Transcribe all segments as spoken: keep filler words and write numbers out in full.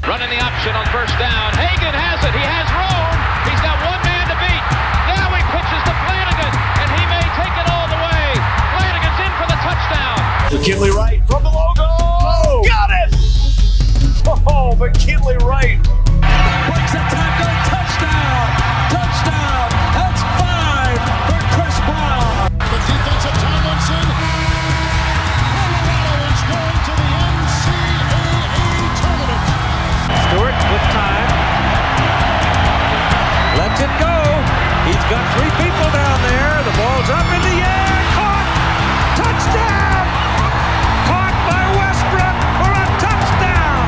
Running the option on first down. Hagan has it. He has room. He's got one man to beat. Now he pitches to Flanagan, and he may take it all the way. Flanagan's in for the touchdown. McKinley Wright from the logo. Oh, got it! Oh, McKinley Wright. Breaks a tackle. Touchdown. Touchdown. That's five for Chris Brown. The defense of Tomlinson. Colorado is going to the N C double A tournament. Stewart with time. Lets it go. He's got three people down there. The ball's up in the air. Caught. Touchdown. Caught by Westbrook for a touchdown.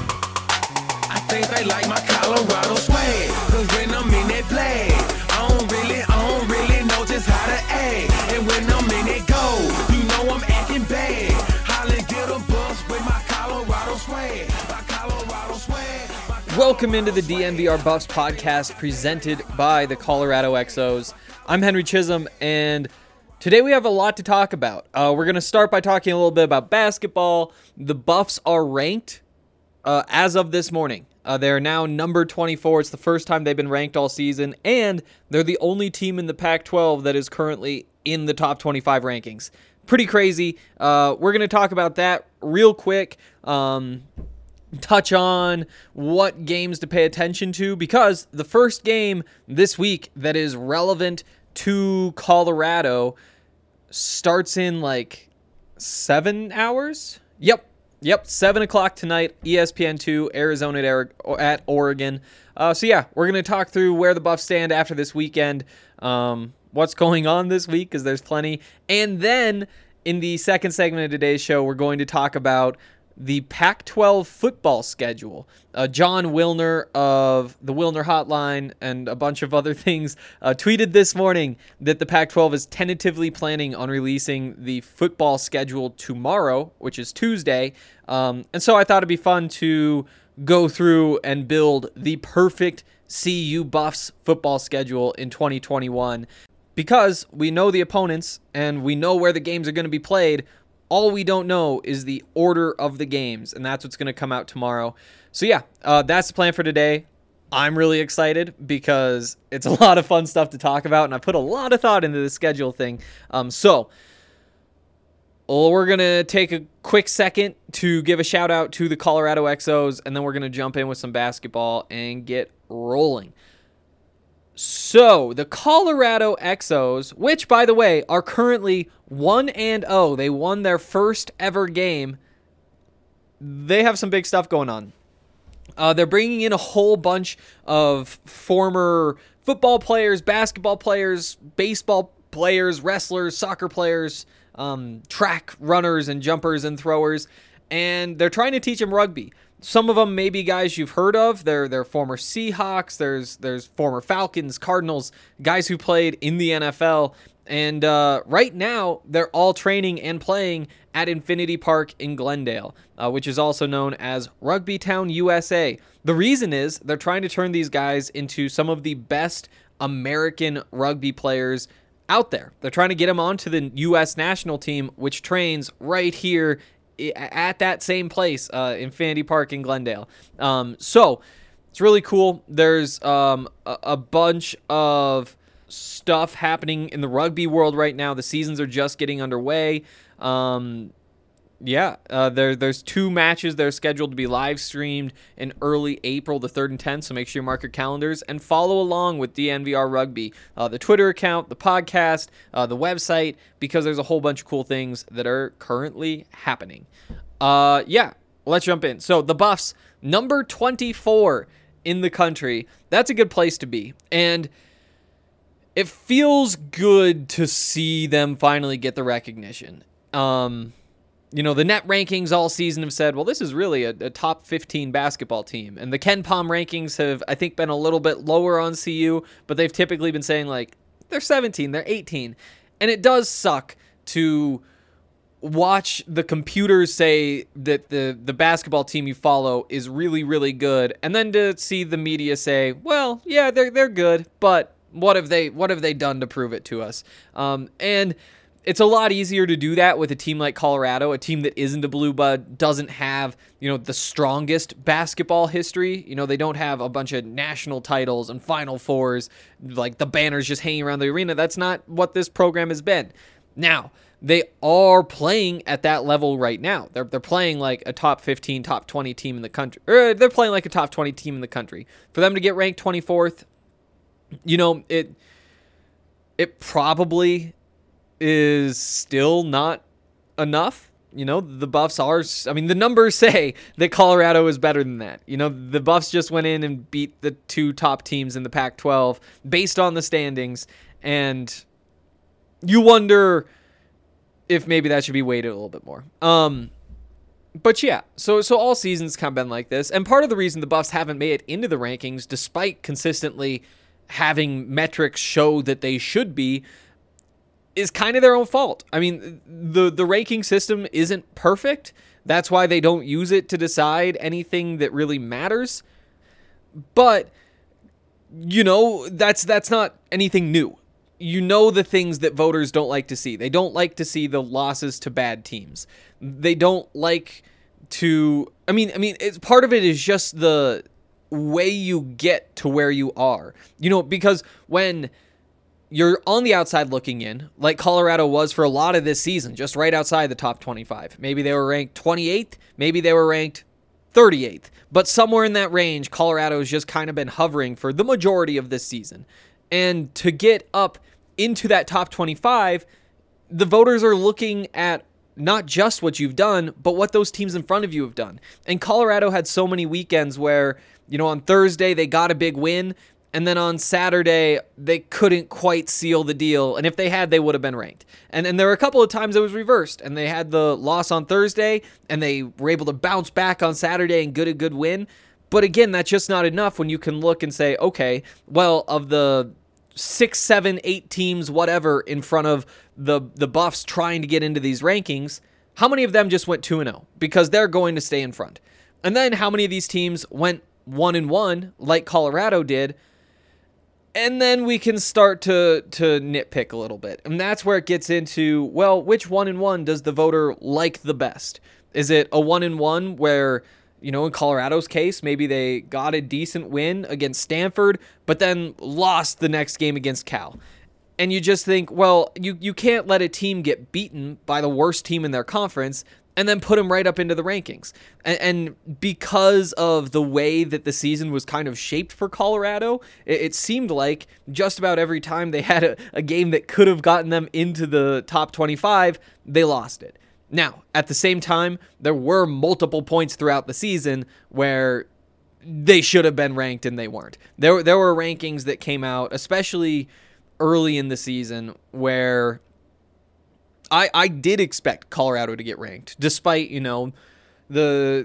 I think they like my Colorado swag. Cause when I'm in that play, I don't really, I don't really know just how to act. And when I'm in it go, you know I'm acting bad. Holly get a bus with my Colorado swag. My Colorado swag. My Welcome into the D N V R Buffs podcast presented by the Colorado X Os. I'm Henry Chisholm, and today we have a lot to talk about. Uh, we're going to start by talking a little bit about basketball. The Buffs are ranked uh, as of this morning. Uh, they're now number twenty-four. It's the first time they've been ranked all season, and they're the only team in the Pac twelve that is currently in the top twenty-five rankings. Pretty crazy. Uh, we're going to talk about that real quick. Um... touch on what games to pay attention to, because the first game this week that is relevant to Colorado starts in like seven hours. Yep. Yep. Seven o'clock tonight, E S P N two, Arizona at, at Oregon. Uh, so yeah, we're going to talk through where the Buffs stand after this weekend, um, what's going on this week, because there's plenty. And then in the second segment of today's show, we're going to talk about the Pac twelve football schedule. Uh, John Wilner of the Wilner Hotline and a bunch of other things uh, tweeted this morning that the Pac twelve is tentatively planning on releasing the football schedule tomorrow, which is Tuesday. Um, and so I thought it'd be fun to go through and build the perfect C U Buffs football schedule in twenty twenty-one. Because we know the opponents and we know where the games are going to be played. All we don't know is the order of the games, and that's what's going to come out tomorrow. So yeah, uh, that's the plan for today. I'm really excited because it's a lot of fun stuff to talk about, and I put a lot of thought into the schedule thing. Um, so well, we're going to take a quick second to give a shout out to the Colorado X Os, and then we're going to jump in with some basketball and get rolling. So, the Colorado X Os, which, by the way, are currently one and oh. They won their first ever game. They have some big stuff going on. Uh, they're bringing in a whole bunch of former football players, basketball players, baseball players, wrestlers, soccer players, um, track runners and jumpers and throwers, and they're trying to teach them rugby. Some of them may be guys you've heard of. They're, they're former Seahawks. There's there's former Falcons, Cardinals, guys who played in the N F L. And uh, right now, they're all training and playing at Infinity Park in Glendale, uh, which is also known as Rugby Town, U S A. The reason is they're trying to turn these guys into some of the best American rugby players out there. They're trying to get them onto the U S national team, which trains right here at that same place, uh, Infinity Park in Glendale. Um, so it's really cool. There's um, a, a bunch of stuff happening in the rugby world right now. The seasons are just getting underway. Um, yeah, uh, there, there's two matches that are scheduled to be live streamed in early April, the third and tenth, so make sure you mark your calendars and follow along with D N V R Rugby, uh, the Twitter account, the podcast, uh, the website, because there's a whole bunch of cool things that are currently happening. Uh, yeah, let's jump in. So the Buffs, number twenty-four in the country. That's a good place to be, and it feels good to see them finally get the recognition. Um... You know, the net rankings all season have said, well, this is really a, a top fifteen basketball team. And the Ken Pom rankings have, I think, been a little bit lower on C U, but they've typically been saying, like, they're seventeen, they're eighteen. And it does suck to watch the computers say that the, the basketball team you follow is really, really good, and then to see the media say, well, yeah, they're they're good, but what have they what have they done to prove it to us? Um, and it's a lot easier to do that with a team like Colorado, a team that isn't a blue blood, doesn't have, you know, the strongest basketball history. You know, they don't have a bunch of national titles and Final Fours, like the banners just hanging around the arena. That's not what this program has been. Now, they are playing at that level right now. They're they're playing like a top fifteen, top twenty team in the country. Or they're playing like a top twenty team in the country. For them to get ranked twenty-fourth, you know, it it probably is still not enough. You know, the Buffs are, I mean, the numbers say that Colorado is better than that. You know, the Buffs just went in and beat the two top teams in the Pac twelve based on the standings, and you wonder if maybe that should be weighted a little bit more. Um, but yeah, so so all seasons kind of been like this, and part of the reason the Buffs haven't made it into the rankings, despite consistently having metrics show that they should be, is kind of their own fault. I mean, the the ranking system isn't perfect. That's why they don't use it to decide anything that really matters. But, you know, that's that's not anything new. You know the things that voters don't like to see. They don't like to see the losses to bad teams. They don't like to, I mean, I mean, it's part of it is just the way you get to where you are. You know, because when you're on the outside looking in, like Colorado was for a lot of this season, just right outside the top twenty-five. Maybe they were ranked twenty-eighth, maybe they were ranked thirty-eighth, but somewhere in that range, Colorado has just kind of been hovering for the majority of this season. And to get up into that top twenty-five, the voters are looking at not just what you've done, but what those teams in front of you have done. And Colorado had so many weekends where, you know, on Thursday they got a big win, and then on Saturday, they couldn't quite seal the deal. And if they had, they would have been ranked. And and there were a couple of times it was reversed. And they had the loss on Thursday, and they were able to bounce back on Saturday and get a good win. But again, that's just not enough when you can look and say, okay, well, of the six, seven, eight teams, whatever, in front of the, the Buffs trying to get into these rankings, how many of them just went two and oh? Because they're going to stay in front. And then how many of these teams went one and one, like Colorado did? And then we can start to to nitpick a little bit. And that's where it gets into, well, which one and one does the voter like the best? Is it a one and one where, you know, in Colorado's case, maybe they got a decent win against Stanford, but then lost the next game against Cal? And you just think, well, you, you can't let a team get beaten by the worst team in their conference and then put them right up into the rankings. And, and because of the way that the season was kind of shaped for Colorado, it, it seemed like just about every time they had a, a game that could have gotten them into the top twenty-five, they lost it. Now, at the same time, there were multiple points throughout the season where they should have been ranked and they weren't. There, there were rankings that came out, especially early in the season, where I, I did expect Colorado to get ranked, despite, you know, the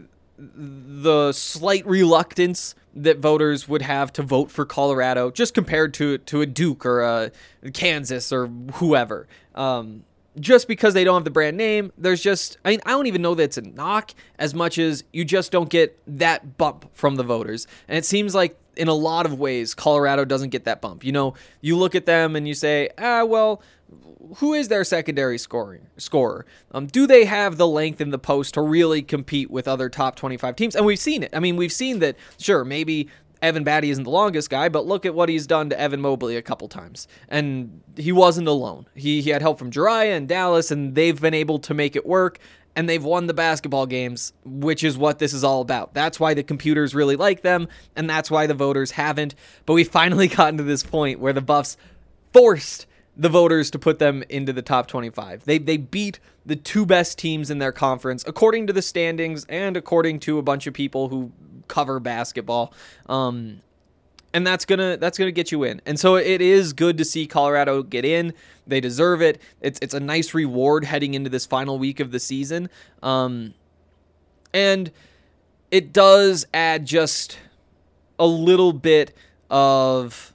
the slight reluctance that voters would have to vote for Colorado, just compared to to a Duke or a Kansas or whoever. Um, just because they don't have the brand name, there's just, I mean, I don't even know that it's a knock as much as you just don't get that bump from the voters. And it seems like in a lot of ways, Colorado doesn't get that bump. You know, you look at them and you say, ah, well, who is their secondary scoring scorer? Um, do they have the length in the post to really compete with other top twenty-five teams? And we've seen it. I mean, we've seen that, sure, maybe Evan Batty isn't the longest guy, but look at what he's done to Evan Mobley a couple times. And he wasn't alone. He, he had help from Jiraiya and Dallas, and they've been able to make it work, and they've won the basketball games, which is what this is all about. That's why the computers really like them, and that's why the voters haven't. But we've finally gotten to this point where the Buffs forced the voters to put them into the top twenty-five. They they beat the two best teams in their conference, according to the standings and according to a bunch of people who cover basketball. Um, and that's gonna that's gonna get you in. And so it is good to see Colorado get in. They deserve it. It's it's a nice reward heading into this final week of the season. Um, and it does add just a little bit of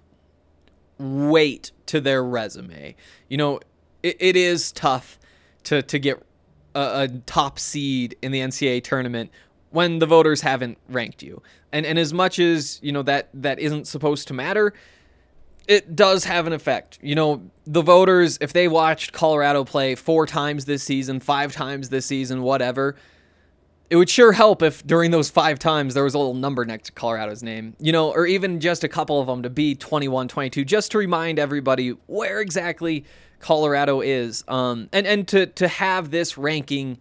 weight to their resume. You know, it, it is tough to to get a, a top seed in the N C double A tournament when the voters haven't ranked you. And and as much as, you know, that that isn't supposed to matter, it does have an effect. You know, the voters, if they watched Colorado play four times this season, five times this season, whatever, it would sure help if during those five times there was a little number next to Colorado's name, you know, or even just a couple of them to be twenty-one, twenty-two, just to remind everybody where exactly Colorado is. Um, and, and to, to have this ranking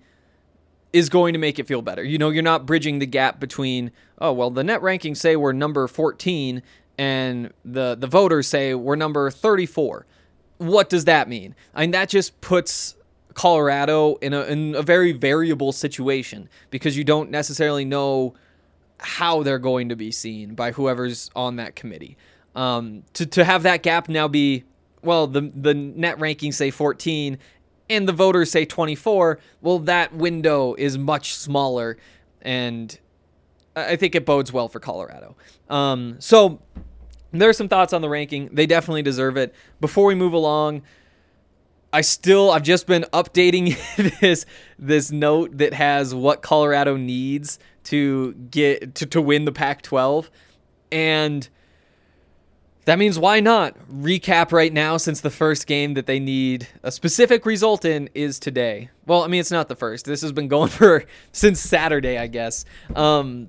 is going to make it feel better. You know, you're not bridging the gap between, oh, well, the net rankings say we're number fourteen and the, the voters say we're number thirty-four. What does that mean? I mean, that just puts Colorado in a, in a very variable situation because you don't necessarily know how they're going to be seen by whoever's on that committee. Um, to, to have that gap now be, well, the, the net rankings say fourteen and the voters say twenty-four, well, that window is much smaller, and I think it bodes well for Colorado. Um, so there are some thoughts on the ranking. They definitely deserve it. Before we move along, I still, I've just been updating this this note that has what Colorado needs to get to, to win the Pac twelve, and that means why not recap right now, since the first game that they need a specific result in is today. Well, I mean, it's not the first. This has been going for since Saturday, I guess. Um,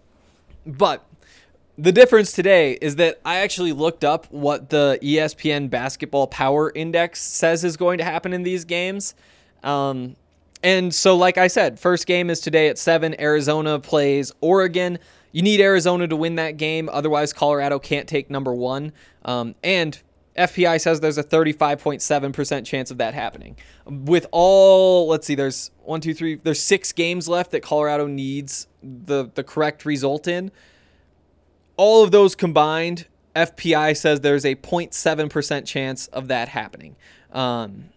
but the difference today is that I actually looked up what the E S P N Basketball Power Index says is going to happen in these games. Um, and so, like I said, first game is today at seven. Arizona plays Oregon. You need Arizona to win that game. Otherwise, Colorado can't take number one. Um, and F P I says there's a thirty-five point seven percent chance of that happening. With all, let's see, there's one, two, three, there's six games left that Colorado needs the, the correct result in. All of those combined, F P I says there's a zero point seven percent chance of that happening. Um,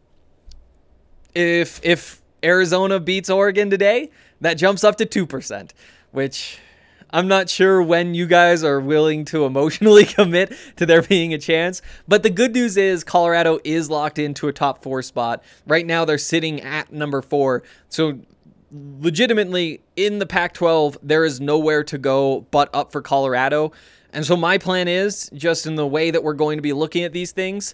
if if Arizona beats Oregon today, that jumps up to two percent, which I'm not sure when you guys are willing to emotionally commit to there being a chance. But the good news is Colorado is locked into a top four spot. Right now they're sitting at number four. So legitimately in the Pac twelve, there is nowhere to go but up for Colorado. And so my plan is, just in the way that we're going to be looking at these things,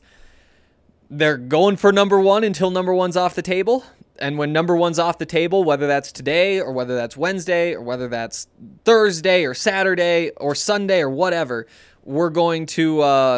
they're going for number one until number one's off the table. And when number one's off the table, whether that's today or whether that's Wednesday or whether that's Thursday or Saturday or Sunday or whatever, we're going to uh,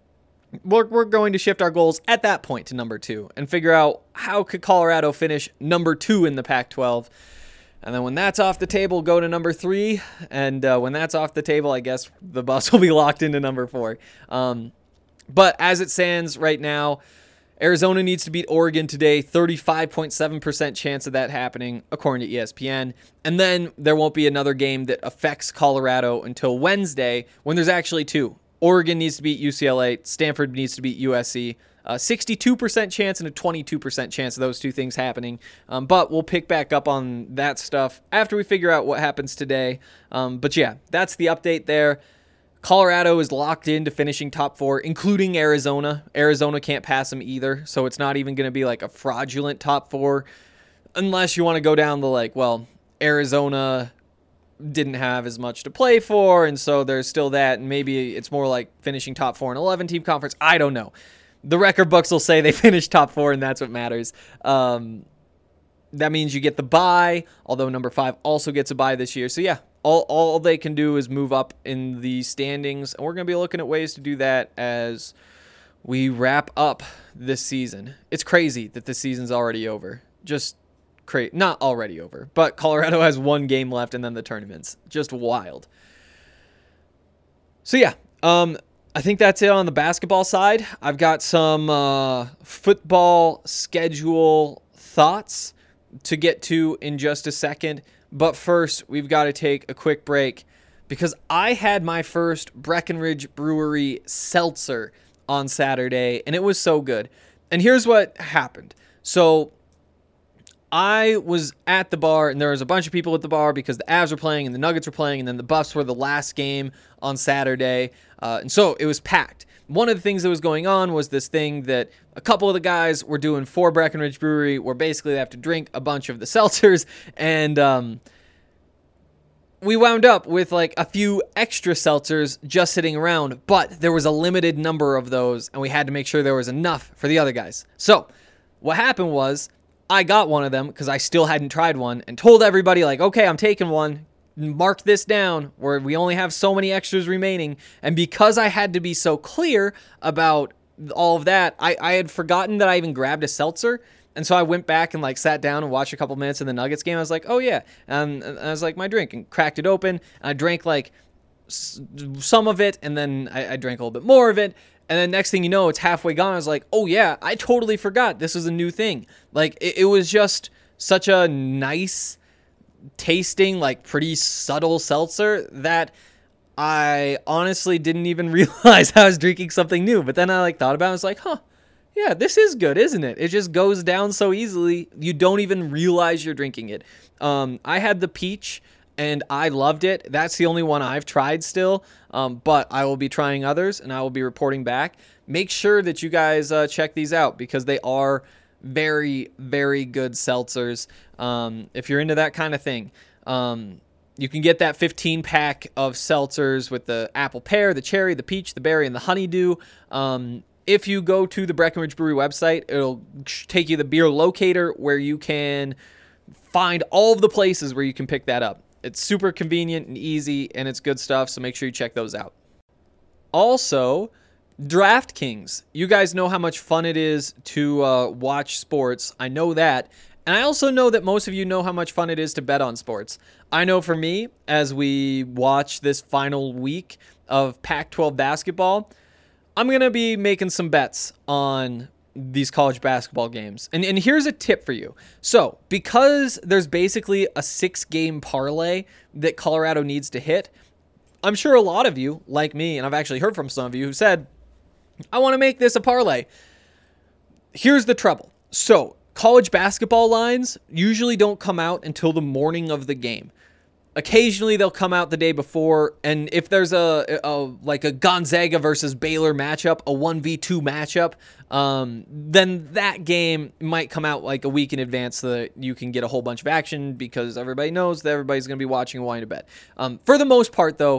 we're, we're going to shift our goals at that point to number two and figure out how could Colorado finish number two in the Pac twelve. And then when that's off the table, go to number three. And uh, when that's off the table, I guess the bus will be locked into number four. Um, but as it stands right now, Arizona needs to beat Oregon today, thirty-five point seven percent chance of that happening, according to E S P N. And then there won't be another game that affects Colorado until Wednesday, when there's actually two. Oregon needs to beat U C L A, Stanford needs to beat U S C. A sixty-two percent chance and a twenty-two percent chance of those two things happening. Um, but we'll pick back up on that stuff after we figure out what happens today. Um, but yeah, that's the update there. Colorado is locked into finishing top four, including Arizona. Arizona can't pass them either, so it's not even going to be like a fraudulent top four, unless you want to go down the like, well, Arizona didn't have as much to play for, and so there's still that, and maybe it's more like finishing top four in eleven-team conference. I don't know. The record books will say they finished top four, and that's what matters. Um, that means you get the bye, although number five also gets a bye this year. So yeah, all all they can do is move up in the standings, and we're going to be looking at ways to do that as we wrap up this season. It's crazy that this season's already over. Just crazy. Not already over, but Colorado has one game left, and then the tournament's just wild. So yeah, um, I think that's it on the basketball side. I've got some uh, football schedule thoughts to get to in just a second. But first, we've got to take a quick break because I had my first Breckenridge Brewery seltzer on Saturday, and it was so good. And here's what happened. So I was at the bar, and there was a bunch of people at the bar because the Avs were playing and the Nuggets were playing, and then the Buffs were the last game on Saturday. Uh, and so it was packed. One of the things that was going on was this thing that a couple of the guys were doing for Breckenridge Brewery, where basically they have to drink a bunch of the seltzers, and um, we wound up with like a few extra seltzers just sitting around, but there was a limited number of those, and we had to make sure there was enough for the other guys. So what happened was I got one of them because I still hadn't tried one and told everybody like, okay, I'm taking one. Mark this down where we only have so many extras remaining. And because I had to be so clear about all of that, I, I had forgotten that I even grabbed a seltzer. And so I went back and like sat down and watched a couple minutes of the Nuggets game. I was like, oh yeah. Um, and I was like, my drink, and cracked it open. And I drank like s- some of it, and then I, I drank a little bit more of it. And then next thing you know, it's halfway gone. I was like, oh yeah, I totally forgot this was a new thing. Like it, it was just such a nice tasting, like pretty subtle seltzer that I honestly didn't even realize I was drinking something new. But then I like thought about it. I was like, huh, yeah, this is good, isn't it? It just goes down so easily. You don't even realize you're drinking it. Um, I had the peach and I loved it. That's the only one I've tried still. Um, but I will be trying others and I will be reporting back. Make sure that you guys uh, check these out because they are very, very good seltzers. Um, if you're into that kind of thing, um, you can get that fifteen pack of seltzers with the apple pear, the cherry, the peach, the berry, and the honeydew. Um, if you go to the Breckenridge Brewery website, it'll take you to the beer locator where you can find all of the places where you can pick that up. It's super convenient and easy, and it's good stuff, so make sure you check those out. Also, DraftKings. You guys know how much fun it is to uh, watch sports. I know that. And I also know that most of you know how much fun it is to bet on sports. I know for me, as we watch this final week of Pac twelve basketball, I'm going to be making some bets on these college basketball games. And, and here's a tip for you. So, because there's basically a six-game parlay that Colorado needs to hit, I'm sure a lot of you, like me, and I've actually heard from some of you who said, I want to make this a parlay. Here's the trouble. So, college basketball lines usually don't come out until the morning of the game. Occasionally they'll come out the day before, and if there's a, a like a Gonzaga versus Baylor matchup, a one v two matchup, um, then that game might come out like a week in advance so that you can get a whole bunch of action because everybody knows that everybody's going to be watching and wanting to bet. Um, for the most part, though,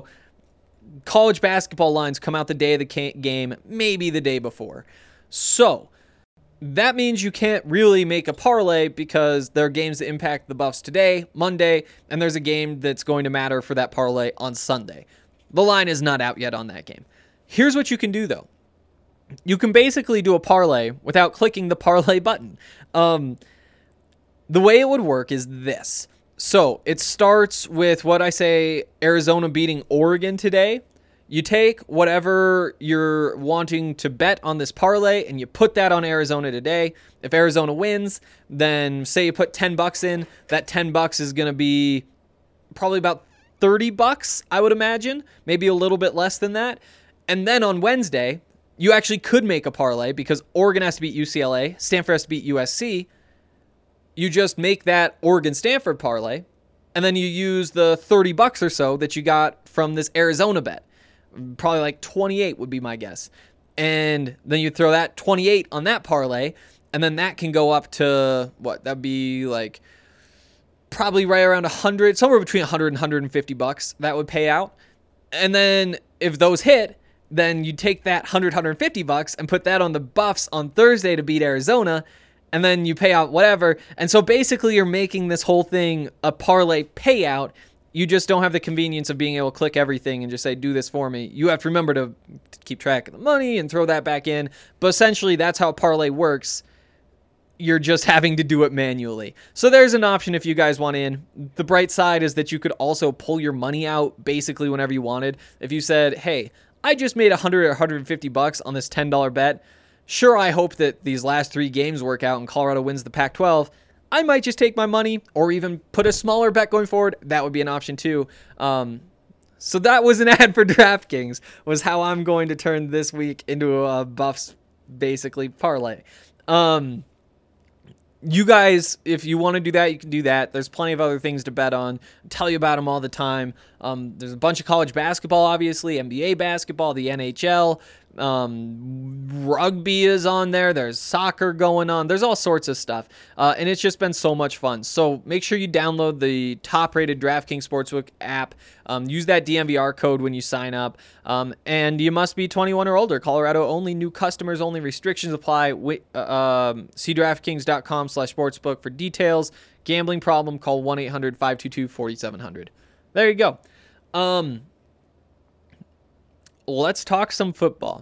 college basketball lines come out the day of the ca- game, maybe the day before. So that means you can't really make a parlay because there are games that impact the Buffs today, Monday, and there's a game that's going to matter for that parlay on Sunday. The line is not out yet on that game. Here's what you can do, though. You can basically do a parlay without clicking the parlay button. Um, the way it would work is this. So it starts with what I say, Arizona beating Oregon today. You take whatever you're wanting to bet on this parlay and you put that on Arizona today. If Arizona wins, then say you put ten bucks in, that ten bucks is going to be probably about thirty bucks, I would imagine, maybe a little bit less than that. And then on Wednesday, you actually could make a parlay because Oregon has to beat U C L A, Stanford has to beat U S C. You just make that Oregon-Stanford parlay, and then you use the thirty bucks or so that you got from this Arizona bet. Probably like twenty-eight would be my guess. And then you throw that twenty-eight on that parlay, and then that can go up to, what, that'd be like probably right around one hundred, somewhere between one hundred and one hundred fifty bucks that would pay out. And then if those hit, then you take that one hundred, one hundred fifty bucks and put that on the Buffs on Thursday to beat Arizona, and then you pay out whatever. And so basically you're making this whole thing a parlay payout. You just don't have the convenience of being able to click everything and just say, do this for me. You have to remember to keep track of the money and throw that back in. But essentially, that's how parlay works. You're just having to do it manually. So there's an option if you guys want in. The bright side is that you could also pull your money out basically whenever you wanted. If you said, hey, I just made one hundred or one hundred fifty bucks on this ten dollar bet. Sure, I hope that these last three games work out and Colorado wins the Pac twelve. I might just take my money or even put a smaller bet going forward. That would be an option too. Um, so that was an ad for DraftKings, was how I'm going to turn this week into a Buffs basically parlay. Um, you guys, if you want to do that, you can do that. There's plenty of other things to bet on. I tell you about them all the time. Um, there's a bunch of college basketball, obviously, N B A basketball, the N H L, Um, rugby is on there. There's soccer going on. There's all sorts of stuff. Uh, and it's just been so much fun. So make sure you download the top-rated DraftKings Sportsbook app. Um, use that D M V R code when you sign up. Um, and you must be twenty-one or older. Colorado only. New customers only. Restrictions apply. Wait, uh, um, see DraftKings.com slash sportsbook for details. Gambling problem, call one eight hundred five two two four seven zero zero. There you go. Um... Let's talk some football.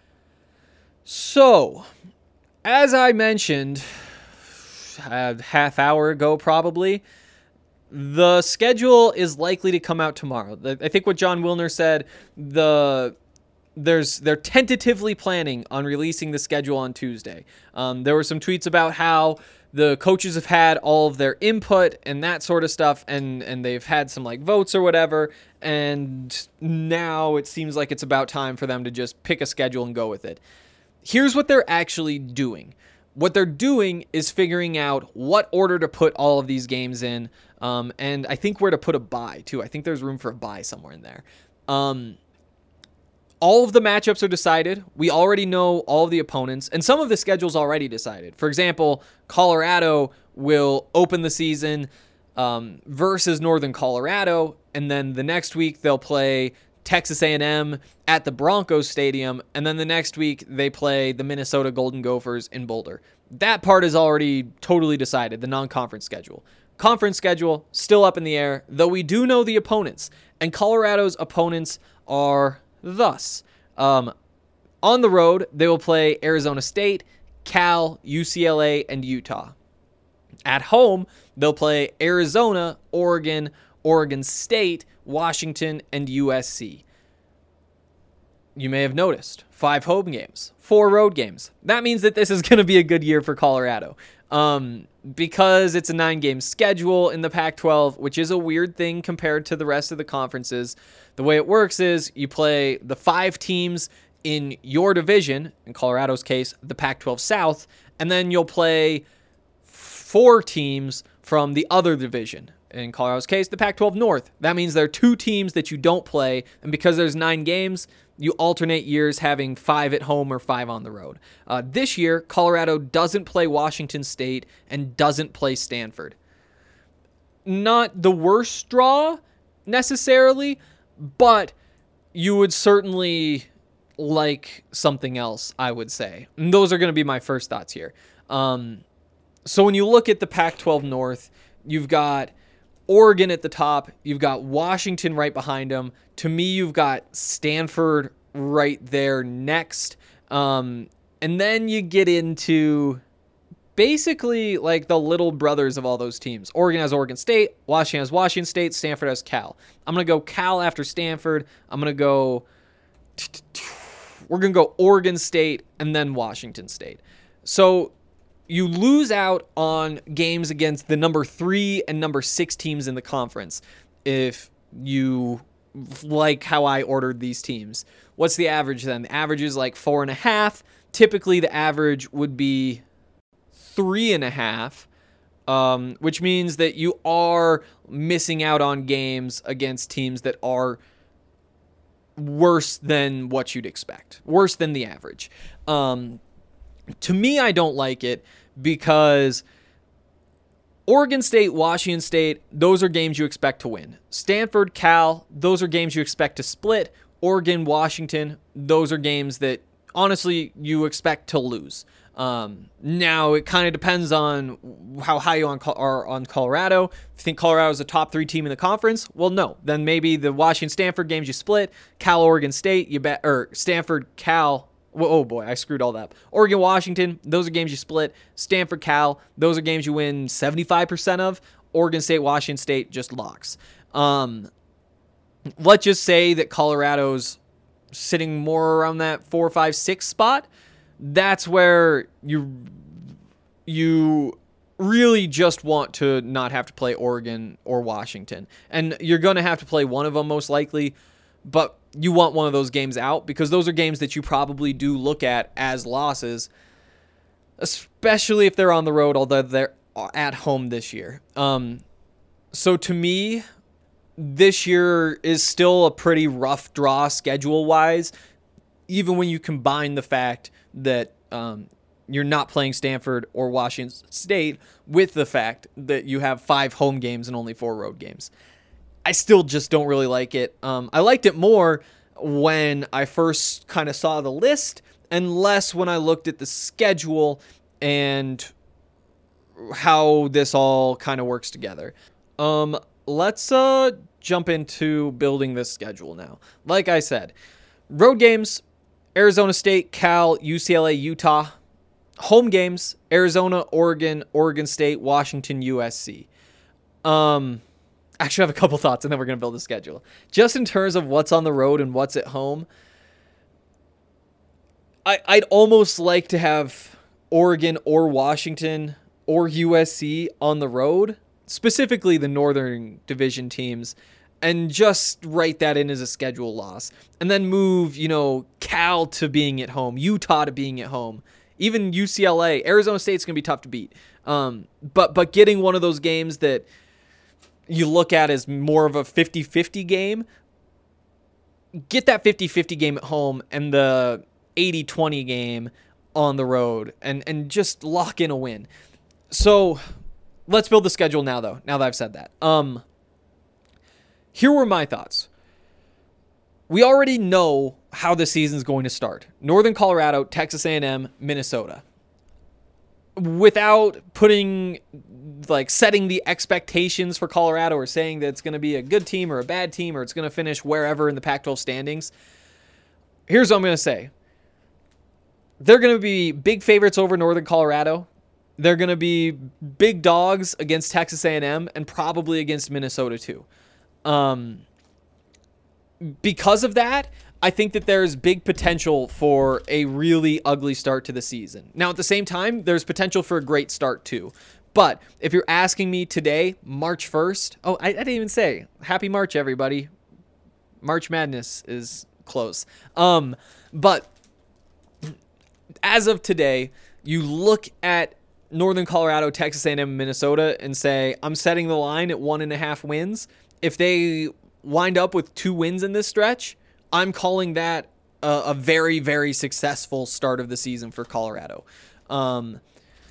So, as I mentioned a half hour ago probably, the schedule is likely to come out tomorrow. I think what John Wilner said, the there's they're tentatively planning on releasing the schedule on Tuesday. Um, there were some tweets about how the coaches have had all of their input and that sort of stuff, and, and they've had some like votes or whatever, and now it seems like it's about time for them to just pick a schedule and go with it. Here's what they're actually doing. What they're doing is figuring out what order to put all of these games in, um, and I think where to put a bye, too. I think there's room for a bye somewhere in there. Um, all of the matchups are decided. We already know all of the opponents, and some of the schedule's already decided. For example, Colorado will open the season um, versus Northern Colorado, and then the next week they'll play Texas A and M at the Broncos Stadium, and then the next week they play the Minnesota Golden Gophers in Boulder. That part is already totally decided, the non-conference schedule. Conference schedule, still up in the air, though we do know the opponents, and Colorado's opponents are thus. Um, on the road, they will play Arizona State, Cal, U C L A, and Utah. At home, they'll play Arizona, Oregon, Oregon State, Washington, and U S C. You may have noticed, five home games, four road games. That means that this is going to be a good year for Colorado. Um, because it's a nine-game schedule in the Pac twelve, which is a weird thing compared to the rest of the conferences. The way it works is you play the five teams in your division, in Colorado's case, the Pac twelve South, and then you'll play four teams from the other division. In Colorado's case, the Pac twelve North. That means there are two teams that you don't play, and because there's nine games, you alternate years having five at home or five on the road. Uh, this year, Colorado doesn't play Washington State and doesn't play Stanford. Not the worst draw, necessarily, but you would certainly like something else, I would say. And those are going to be my first thoughts here. Um, so when you look at the Pac twelve North, you've got Oregon at the top. You've got Washington right behind them. To me, you've got Stanford right there next. Um, and then you get into basically like the little brothers of all those teams. Oregon has Oregon State. Washington has Washington State. Stanford has Cal. I'm going to go Cal after Stanford. I'm going to go... We're going to go Oregon State and then Washington State. So you lose out on games against the number three and number six teams in the conference if you like how I ordered these teams. What's the average then? The average is like four and a half. Typically the average would be three and a half, um, which means that you are missing out on games against teams that are worse than what you'd expect, worse than the average. Um, to me, I don't like it because Oregon State, Washington State, those are games you expect to win. Stanford, Cal, those are games you expect to split. Oregon, Washington, those are games that honestly you expect to lose. Um, now, it kind of depends on how high you on, are on Colorado. If you think Colorado is a top three team in the conference, well, no. Then maybe the Washington-Stanford games you split, Cal, Oregon State, you bet, or Stanford, Cal. Oh boy, I screwed all that up. Oregon, Washington, those are games you split. Stanford, Cal, those are games you win seventy-five percent of. Oregon State, Washington State, just locks. Um, let's just say that Colorado's sitting more around that four, five, six spot. That's where you you really just want to not have to play Oregon or Washington. And you're going to have to play one of them most likely, but you want one of those games out because those are games that you probably do look at as losses, especially if they're on the road, although they're at home this year. Um, so to me, this year is still a pretty rough draw schedule-wise. even when you combine the fact that um, you're not playing Stanford or Washington State with the fact that you have five home games and only four road games. I still just don't really like it. Um, I liked it more when I first kind of saw the list and less when I looked at the schedule and how this all kind of works together. Um, let's uh, jump into building this schedule now. Like I said, road games, Arizona State, Cal, U C L A, Utah. Home games, Arizona, Oregon, Oregon State, Washington, U S C. Um... Actually, I have a couple thoughts, and then we're going to build a schedule. Just in terms of what's on the road and what's at home, I, I'd almost like to have Oregon or Washington or U S C on the road, specifically the Northern Division teams, and just write that in as a schedule loss. And then move, you know, Cal to being at home, Utah to being at home, even U C L A. Arizona State's going to be tough to beat. Um, but but getting one of those games that you look at as more of a fifty-fifty game, get that fifty-fifty game at home and the eighty twenty game on the road and, and just lock in a win. So let's build the schedule now, though, now that I've said that. Um, here were my thoughts. We already know how the season's going to start. Northern Colorado, Texas A and M, Minnesota. Without putting, like, setting the expectations for Colorado or saying that it's going to be a good team or a bad team or it's going to finish wherever in the Pac twelve standings, here's what I'm going to say. They're going to be big favorites over Northern Colorado. They're going to be big dogs against Texas A and M and probably against Minnesota too. Um, because of that, I think that there's big potential for a really ugly start to the season. Now, at the same time, there's potential for a great start too. But if you're asking me today, March first, oh, I, I didn't even say happy March, everybody. March Madness is close. Um, but as of today, you look at Northern Colorado, Texas A and M, Minnesota, and say, I'm setting the line at one and a half wins. If they wind up with two wins in this stretch, I'm calling that a, a very, very successful start of the season for Colorado. Um,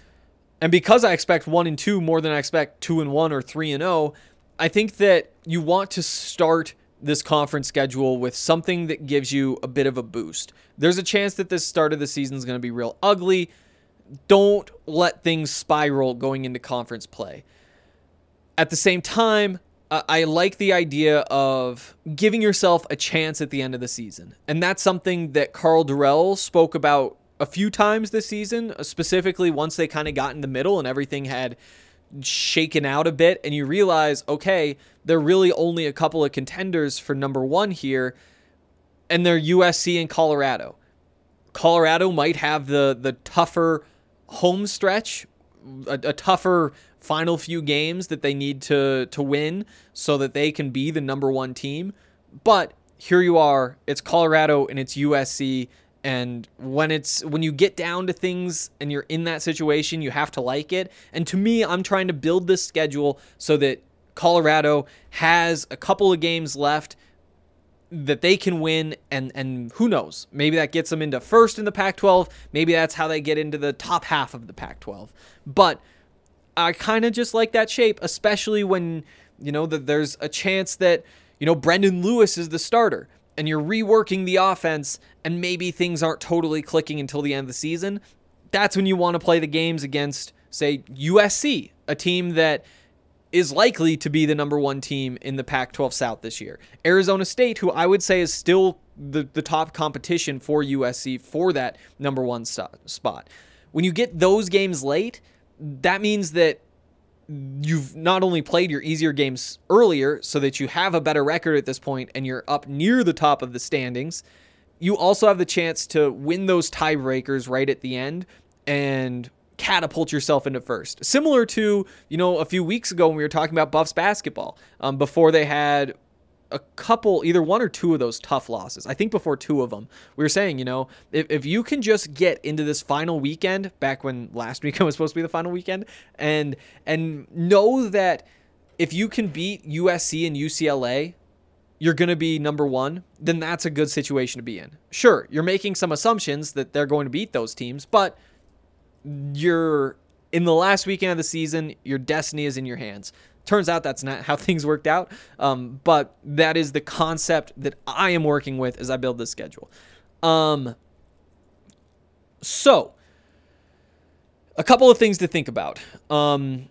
and because I expect one and two more than I expect two and one or three and oh, I think that you want to start this conference schedule with something that gives you a bit of a boost. There's a chance that this start of the season is going to be real ugly. Don't let things spiral going into conference play. At the same time, I like the idea of giving yourself a chance at the end of the season. And that's something that Karl Dorrell spoke about a few times this season, specifically once they kind of got in the middle and everything had shaken out a bit. And you realize, okay, they're really only a couple of contenders for number one here, and they're U S C and Colorado. Colorado might have the, the tougher home stretch, a, a tougher final few games that they need to to win so that they can be the number one team. But here you are, it's Colorado and it's U S C, and when it's when you get down to things and you're in that situation, you have to like it. And to me, I'm trying to build this schedule so that Colorado has a couple of games left that they can win, and and who knows, maybe that gets them into first in the Pac twelve, maybe that's how they get into the top half of the Pac twelve. But I kind of just like that shape, especially when, you know, that there's a chance that, you know, Brendan Lewis is the starter and you're reworking the offense and maybe things aren't totally clicking until the end of the season. That's when you want to play the games against, say, U S C, a team that is likely to be the number one team in the Pac twelve South this year. Arizona State, who I would say is still the, the top competition for U S C for that number one st- spot. When you get those games late, that means that you've not only played your easier games earlier so that you have a better record at this point and you're up near the top of the standings, you also have the chance to win those tiebreakers right at the end and catapult yourself into first. Similar to, you know, a few weeks ago when we were talking about Buffs basketball, um, before they had a couple, either one or two of those tough losses. I think before two of them, we were saying, you know, if, if you can just get into this final weekend, back when last weekend was supposed to be the final weekend, and and know that if you can beat U S C and U C L A you're going to be number one, then that's a good situation to be in. Sure, you're making some assumptions that they're going to beat those teams, but you're in the last weekend of the season, your destiny is in your hands. Turns out that's not how things worked out, um, but that is the concept that I am working with as I build this schedule. Um, so, a couple of things to think about. Um,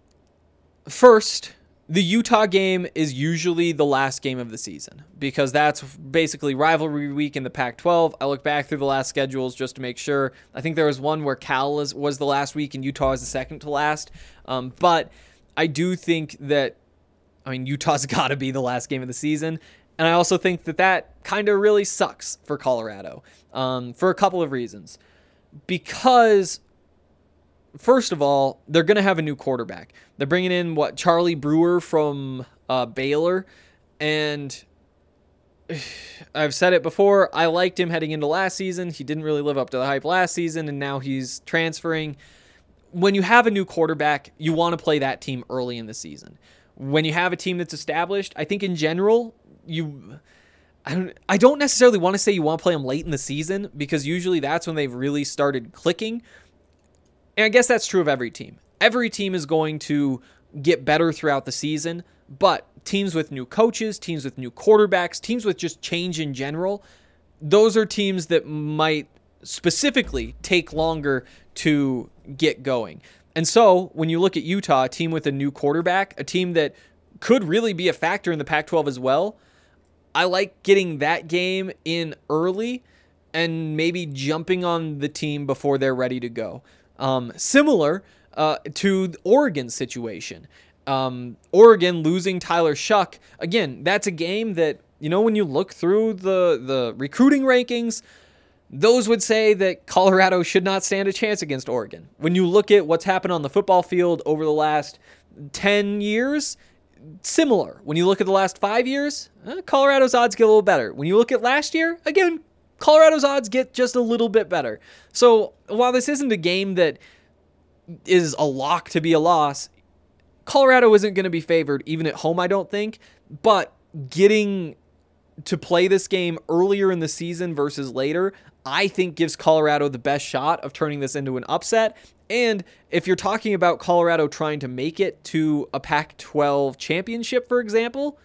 first, the Utah game is usually the last game of the season because that's basically rivalry week in the Pac twelve. I look back through the last schedules just to make sure. I think there was one where Cal was, was the last week and Utah is the second to last. Um, but I do think that, I mean, Utah's got to be the last game of the season. And I also think that that kind of really sucks for Colorado um, for a couple of reasons. Because, first of all, they're going to have a new quarterback. They're bringing in, what, Charlie Brewer from uh, Baylor. And I've said it before, I liked him heading into last season. He didn't really live up to the hype last season, and now he's transferring. When you have a new quarterback, you want to play that team early in the season. When you have a team that's established, I think in general, you... I don't, I don't necessarily want to say you want to play them late in the season because usually that's when they've really started clicking. And I guess that's true of every team. Every team is going to get better throughout the season, but teams with new coaches, teams with new quarterbacks, teams with just change in general, those are teams that might specifically take longer to get going. And so when you look at Utah, a team with a new quarterback, a team that could really be a factor in the Pac twelve as well, I like getting that game in early and maybe jumping on the team before they're ready to go. Um, similar uh, to the Oregon situation. Um, Oregon losing Tyler Shuck. Again, that's a game that, you know, when you look through the, the recruiting rankings, those would say that Colorado should not stand a chance against Oregon. When you look at what's happened on the football field over the last ten years, similar. When you look at the last five years, eh, Colorado's odds get a little better. When you look at last year, again, Colorado's odds get just a little bit better. So while this isn't a game that is a lock to be a loss, Colorado isn't going to be favored even at home, I don't think. But getting to play this game earlier in the season versus later, I think gives Colorado the best shot of turning this into an upset. And if you're talking about Colorado trying to make it to a Pac twelve championship, for example,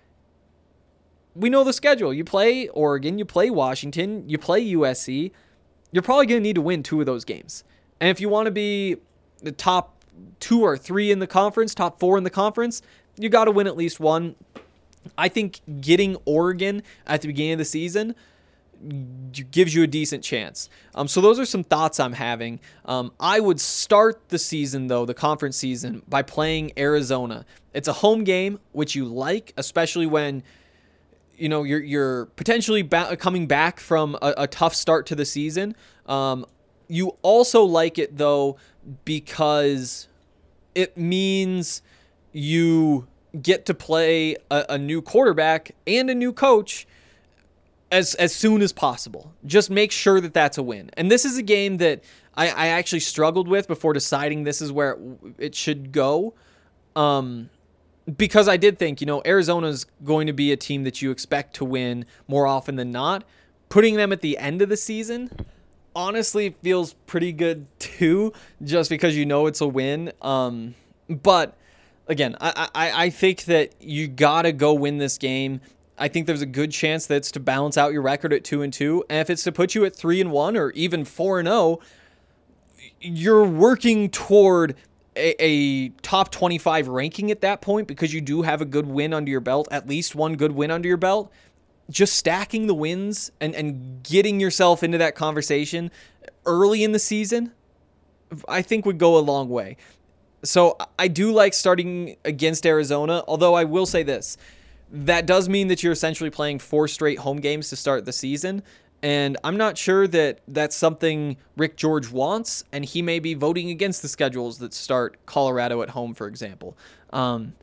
we know the schedule. You play Oregon, you play Washington, you play U S C. You're probably going to need to win two of those games. And if you want to be the top two or three in the conference, top four in the conference, you got to win at least one. I think getting Oregon at the beginning of the season gives you a decent chance. Um, so those are some thoughts I'm having. Um, I would start the season, though, the conference season, by playing Arizona. It's a home game, which you like, especially when you know you're you're potentially ba- coming back from a, a tough start to the season. Um, you also like it, though, because it means you get to play a, a new quarterback and a new coach as as soon as possible. Just make sure that that's a win. And this is a game that I, I actually struggled with before deciding this is where it, it should go. Um, because I did think, you know, Arizona's going to be a team that you expect to win more often than not. Putting them at the end of the season honestly feels pretty good too, just because you know it's a win. Um, but again, I, I, I think that you got to go win this game. I think there's a good chance that it's to balance out your record at two and two, and if it's to put you at three and one or even four and zero, you're working toward a, a top twenty-five ranking at that point because you do have a good win under your belt, at least one good win under your belt. Just stacking the wins and and getting yourself into that conversation early in the season, I think would go a long way. So I do like starting against Arizona, although I will say this. That does mean that you're essentially playing four straight home games to start the season, and I'm not sure that that's something Rick George wants, and he may be voting against the schedules that start Colorado at home, for example. Um,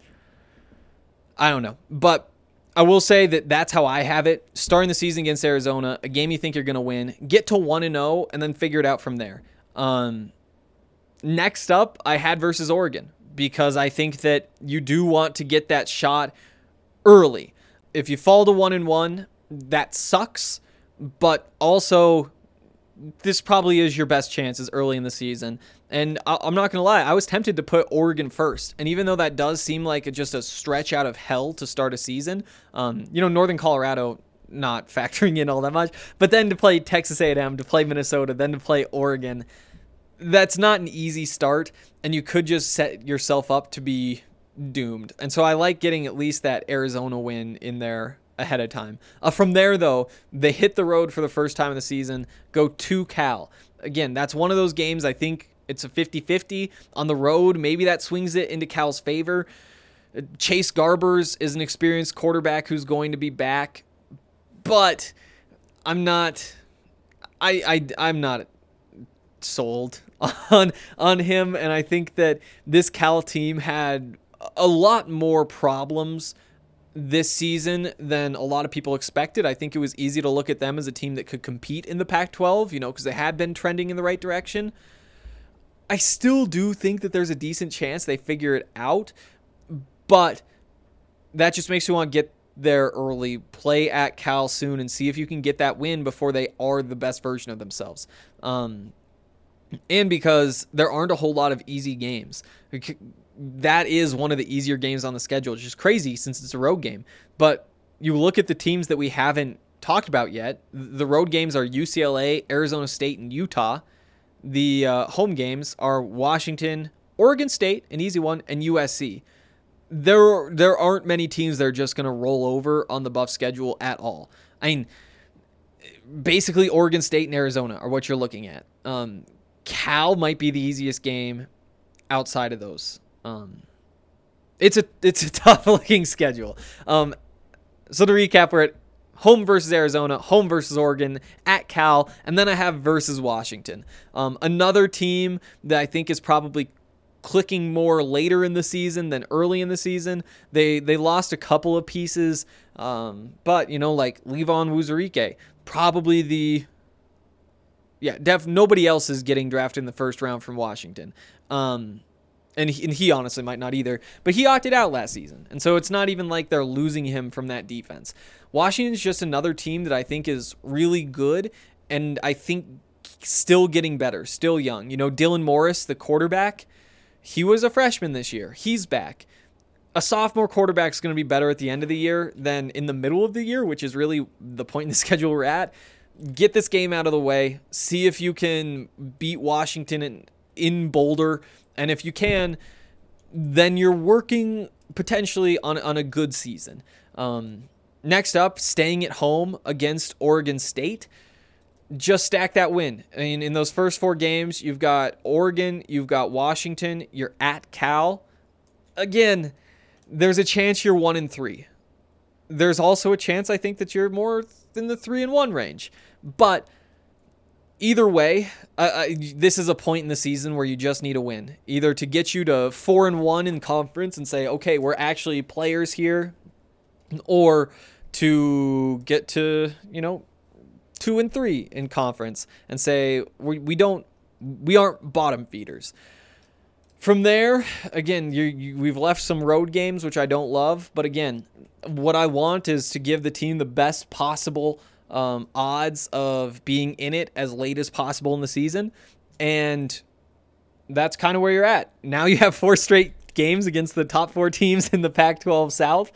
I don't know, but I will say that that's how I have it. Starting the season against Arizona, a game you think you're going to win, get to one and oh, and then figure it out from there. Um, next up, I had versus Oregon, because I think that you do want to get that shot early. if you fall to one and one, that sucks, but also this probably is your best chances early in the season. And I- I'm not going to lie, I was tempted to put Oregon first. And even though that does seem like a, just a stretch out of hell to start a season, um, you know, Northern Colorado not factoring in all that much, but then to play Texas A and M, to play Minnesota, then to play Oregon, that's not an easy start, and you could just set yourself up to be doomed. And so I like getting at least that Arizona win in there ahead of time. Uh, from there, though, they hit the road for the first time of the season, go to Cal. Again, that's one of those games, I think it's a fifty-fifty. On the road, maybe that swings it into Cal's favor. Chase Garbers is an experienced quarterback who's going to be back, but I'm not I, I, I'm not sold on on him, and I think that this Cal team had a lot more problems this season than a lot of people expected. I think it was easy to look at them as a team that could compete in the Pac twelve, you know, because they had been trending in the right direction. I still do think that there's a decent chance they figure it out, but that just makes me want to get there early, play at Cal soon, and see if you can get that win before they are the best version of themselves. Um, and because there aren't a whole lot of easy games. That is one of the easier games on the schedule, which is crazy since it's a road game. But you look at the teams that we haven't talked about yet. The road games are U C L A, Arizona State, and Utah. The uh, home games are Washington, Oregon State, an easy one, and U S C. There, there aren't many teams that are just going to roll over on the Buff schedule at all. I mean, basically Oregon State and Arizona are what you're looking at. Um, Cal might be the easiest game outside of those. Um, it's a it's a tough looking schedule. Um, so to recap, we're at home versus Arizona, home versus Oregon, at Cal, and then I have versus Washington. Um, another team that I think is probably clicking more later in the season than early in the season. They they lost a couple of pieces, um, but you know, like Levon Wuzurike, probably the yeah, def nobody else is getting drafted in the first round from Washington. Um, and he, and he honestly might not either, but he opted out last season. And so it's not even like they're losing him from that defense. Washington's just another team that I think is really good, and I think still getting better, still young. You know, Dylan Morris, the quarterback, he was a freshman this year. He's back. A sophomore quarterback is going to be better at the end of the year than in the middle of the year, which is really the point in the schedule we're at. Get this game out of the way. See if you can beat Washington in, in Boulder. And if you can, then you're working potentially on, on a good season. Um, next up, staying at home against Oregon State. Just stack that win. I mean, in those first four games, you've got Oregon, you've got Washington, you're at Cal. Again, there's a chance you're one and three. There's also a chance, I think, that you're more in the three and one range. But either way, uh, uh, this is a point in the season where you just need a win, either to get you to four and one in conference and say, okay, we're actually players here, or to get to, you know, two and three in conference and say we we don't we aren't bottom feeders. From there, again, you, you we've left some road games which I don't love, but again, what I want is to give the team the best possible um, odds of being in it as late as possible in the season, and that's kind of where you're at. Now you have four straight games against the top four teams in the Pac twelve South.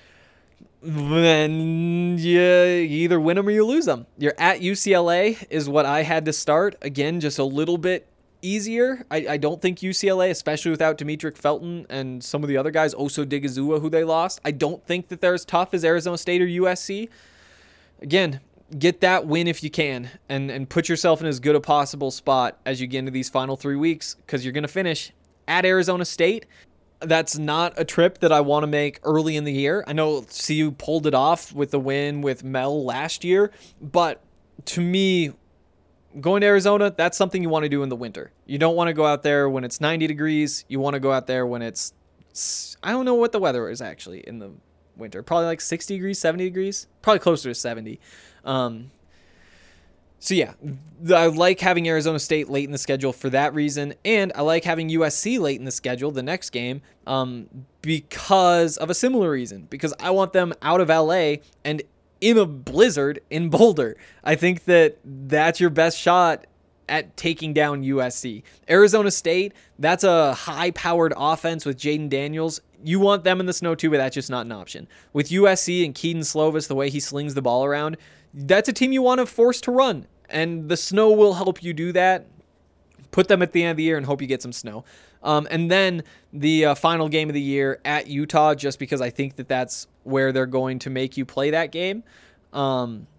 Then you, you either win them or you lose them. You're at U C L A is what I had to start. Again, just a little bit easier. I, I don't think U C L A, especially without Demetric Felton and some of the other guys, Oso Digizua, who they lost, I don't think that they're as tough as Arizona State or U S C. Again, get that win if you can, and, and put yourself in as good a possible spot as you get into these final three weeks, because you're going to finish at Arizona State. That's not a trip that I want to make early in the year. I know C U pulled it off with the win with Mel last year, but to me, going to Arizona, that's something you want to do in the winter. You don't want to go out there when it's ninety degrees. You want to go out there when it's, I don't know what the weather is actually in the winter. Probably like sixty degrees, seventy degrees, probably closer to seventy. Um, So yeah, I like having Arizona State late in the schedule for that reason, and I like having U S C late in the schedule, the next game, um, because of a similar reason, because I want them out of L A and in a blizzard in Boulder. I think that that's your best shot at taking down U S C. Arizona State, that's a high-powered offense with Jaden Daniels. You want them in the snow too, but that's just not an option. With U S C and Keaton Slovis, the way he slings the ball around, that's a team you want to force to run, and the snow will help you do that. Put them at the end of the year and hope you get some snow. Um, and then the uh, final game of the year at Utah, just because I think that that's where they're going to make you play that game. Um,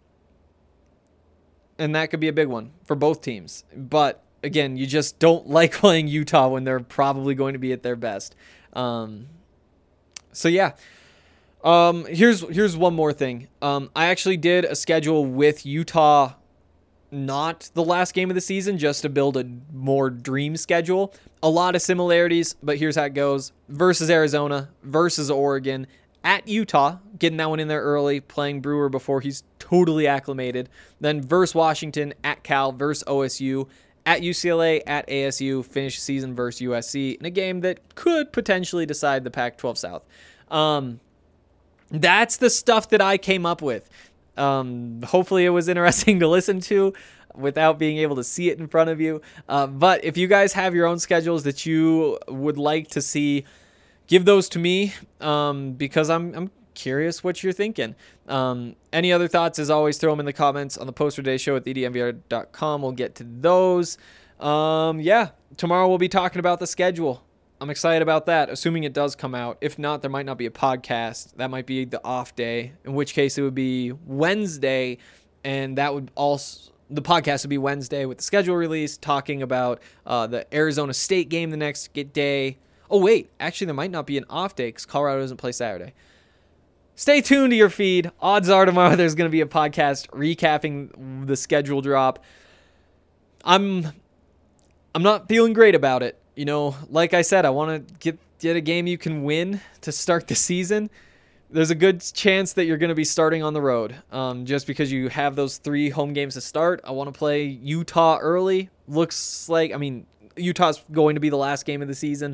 and that could be a big one for both teams. But, again, you just don't like playing Utah when they're probably going to be at their best. Um, so, yeah. Um, here's here's one more thing. Um, I actually did a schedule with Utah, not the last game of the season, just to build a more dream schedule. A lot of similarities, but here's how it goes. Versus Arizona, versus Oregon, at Utah, getting that one in there early, playing Brewer before he's totally acclimated. Then versus Washington, at Cal, versus O S U, at U C L A, at A S U, finish the season versus U S C in a game that could potentially decide the Pac twelve South. Um... That's the stuff that I came up with. Um, hopefully it was interesting to listen to without being able to see it in front of you. Uh, but if you guys have your own schedules that you would like to see, give those to me um, because I'm I'm curious what you're thinking. Um, any other thoughts, as always, throw them in the comments on the Poster Day Show at the d m v r dot com. We'll get to those. Um, yeah, tomorrow we'll be talking about the schedule. I'm excited about that, assuming it does come out. If not, there might not be a podcast. That might be the off day, in which case it would be Wednesday, and that would also, the podcast would be Wednesday with the schedule release, talking about uh, the Arizona State game the next day. Oh, wait, actually there might not be an off day because Colorado doesn't play Saturday. Stay tuned to your feed. Odds are tomorrow there's going to be a podcast recapping the schedule drop. I'm, I'm not feeling great about it. You know, like I said, I want to get get a game you can win to start the season. There's a good chance that you're going to be starting on the road um, just because you have those three home games to start. I want to play Utah early. Looks like, I mean, Utah's going to be the last game of the season.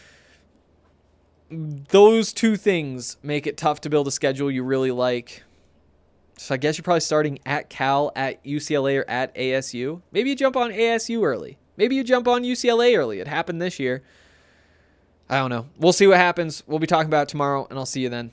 Those two things make it tough to build a schedule you really like. So I guess you're probably starting at Cal, at U C L A, or at A S U. Maybe you jump on A S U early. Maybe you jump on U C L A early. It happened this year. I don't know. We'll see what happens. We'll be talking about it tomorrow, and I'll see you then.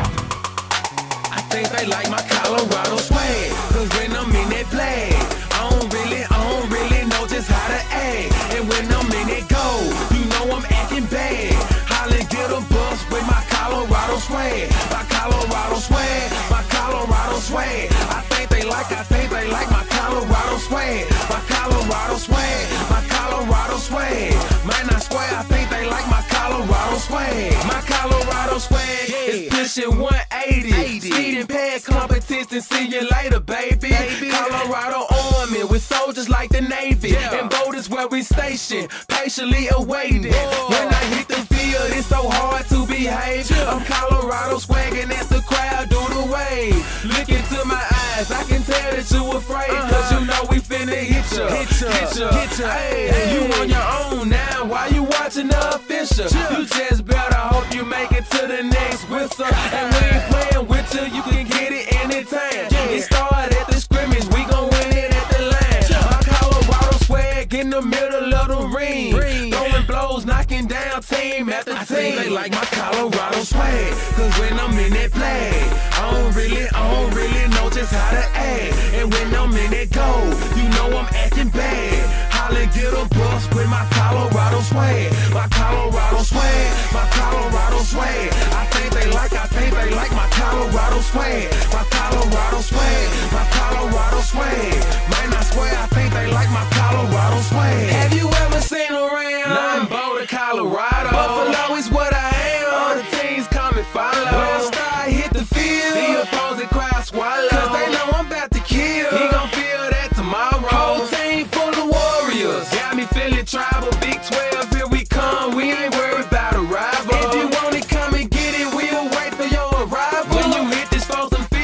I think they like my Colorado swag, cause when I'm in that flag, I don't really, I don't really know just how to act. And when I'm in that goal, you know I'm acting bad. Holly get a bus with my Colorado swag, my Colorado swag, my Colorado swag. I think they like, I think they like my Colorado swag, my Colorado swag, my Colorado swag. Might not square, I think they like my Colorado swag, my Colorado swag is pushing one eighty. Speed and pad competition, see you later, baby. baby. Colorado Army with soldiers like the Navy, yeah. And boat is where we station, patiently awaiting. Whoa. When I hit the field, it's so hard to behave. Yeah. I'm Colorado swagging as the crowd do the wave. Look into my eyes, I can tell that you afraid, uh-huh. Cause you know we finna hit ya, hit ya, hit ya, hit ya. Hey, hey. You on your own now, why you watching the official? Yeah. You just better hope you make it to the next whistle. And we ain't playing with you, you can get it anytime. Yeah. It started at the scrimmage, we gon' win it at the line. Yeah. My Colorado swag in the middle of the ring, ring. Throwing blows, knocking down team after team. I think they like my Colorado swag, cause when I'm in that flag, I don't really, I don't really know just how to act. And when I'm in that goal, you know I'm acting bad. Holly get a bus with my Colorado swag, my Colorado swag, my Colorado swag. I think they like, I think they like my Colorado swag, my Colorado swag, my Colorado swag. Might not swear, I think they like my Colorado swag. Have you ever seen around? Nah, I'm Boulder, Colorado. Buffalo is what I am. All the teams come and follow. When I start hit the field, the opposing crowd swallow, cause they know I'm about to kill. He gon' feel that tomorrow. Whole team full of warriors, got me feeling tribal. Big twelve, here we come. We ain't worried about a rival. If you want it, come and get it. We'll wait for your arrival. When you hit this folks and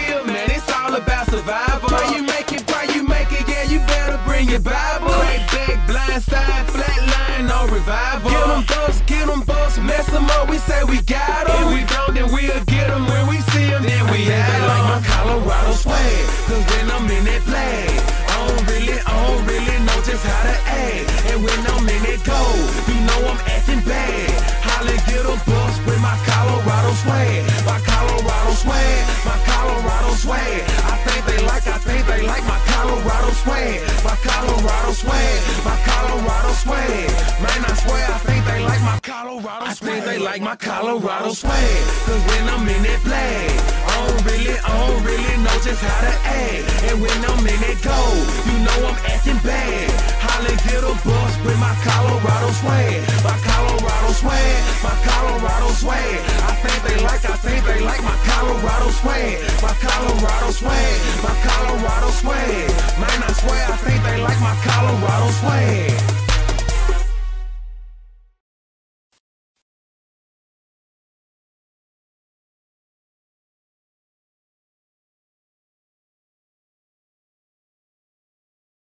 swag. Cause when I'm in that play, I don't really, I don't really know just how to act. And when I'm in that go, you know I'm acting bad. Holly get a bus with my Colorado swag. My Colorado swag, my Colorado swag. I think they like, I think they like my Colorado swag. My Colorado swag, my Colorado swag. Man, I swear I think they like my Colorado swag. I think they like my Colorado swag. Cause when I'm in that play, I don't really, I don't really know just how to act. And when I'm in that go, you know I'm acting bad. Holly get a bus with my Colorado swag. My Colorado swag, my Colorado swag. I think they like, I think they like my Colorado swag. My Colorado swag, my Colorado swag. Man, I swear I think they like my Colorado swag.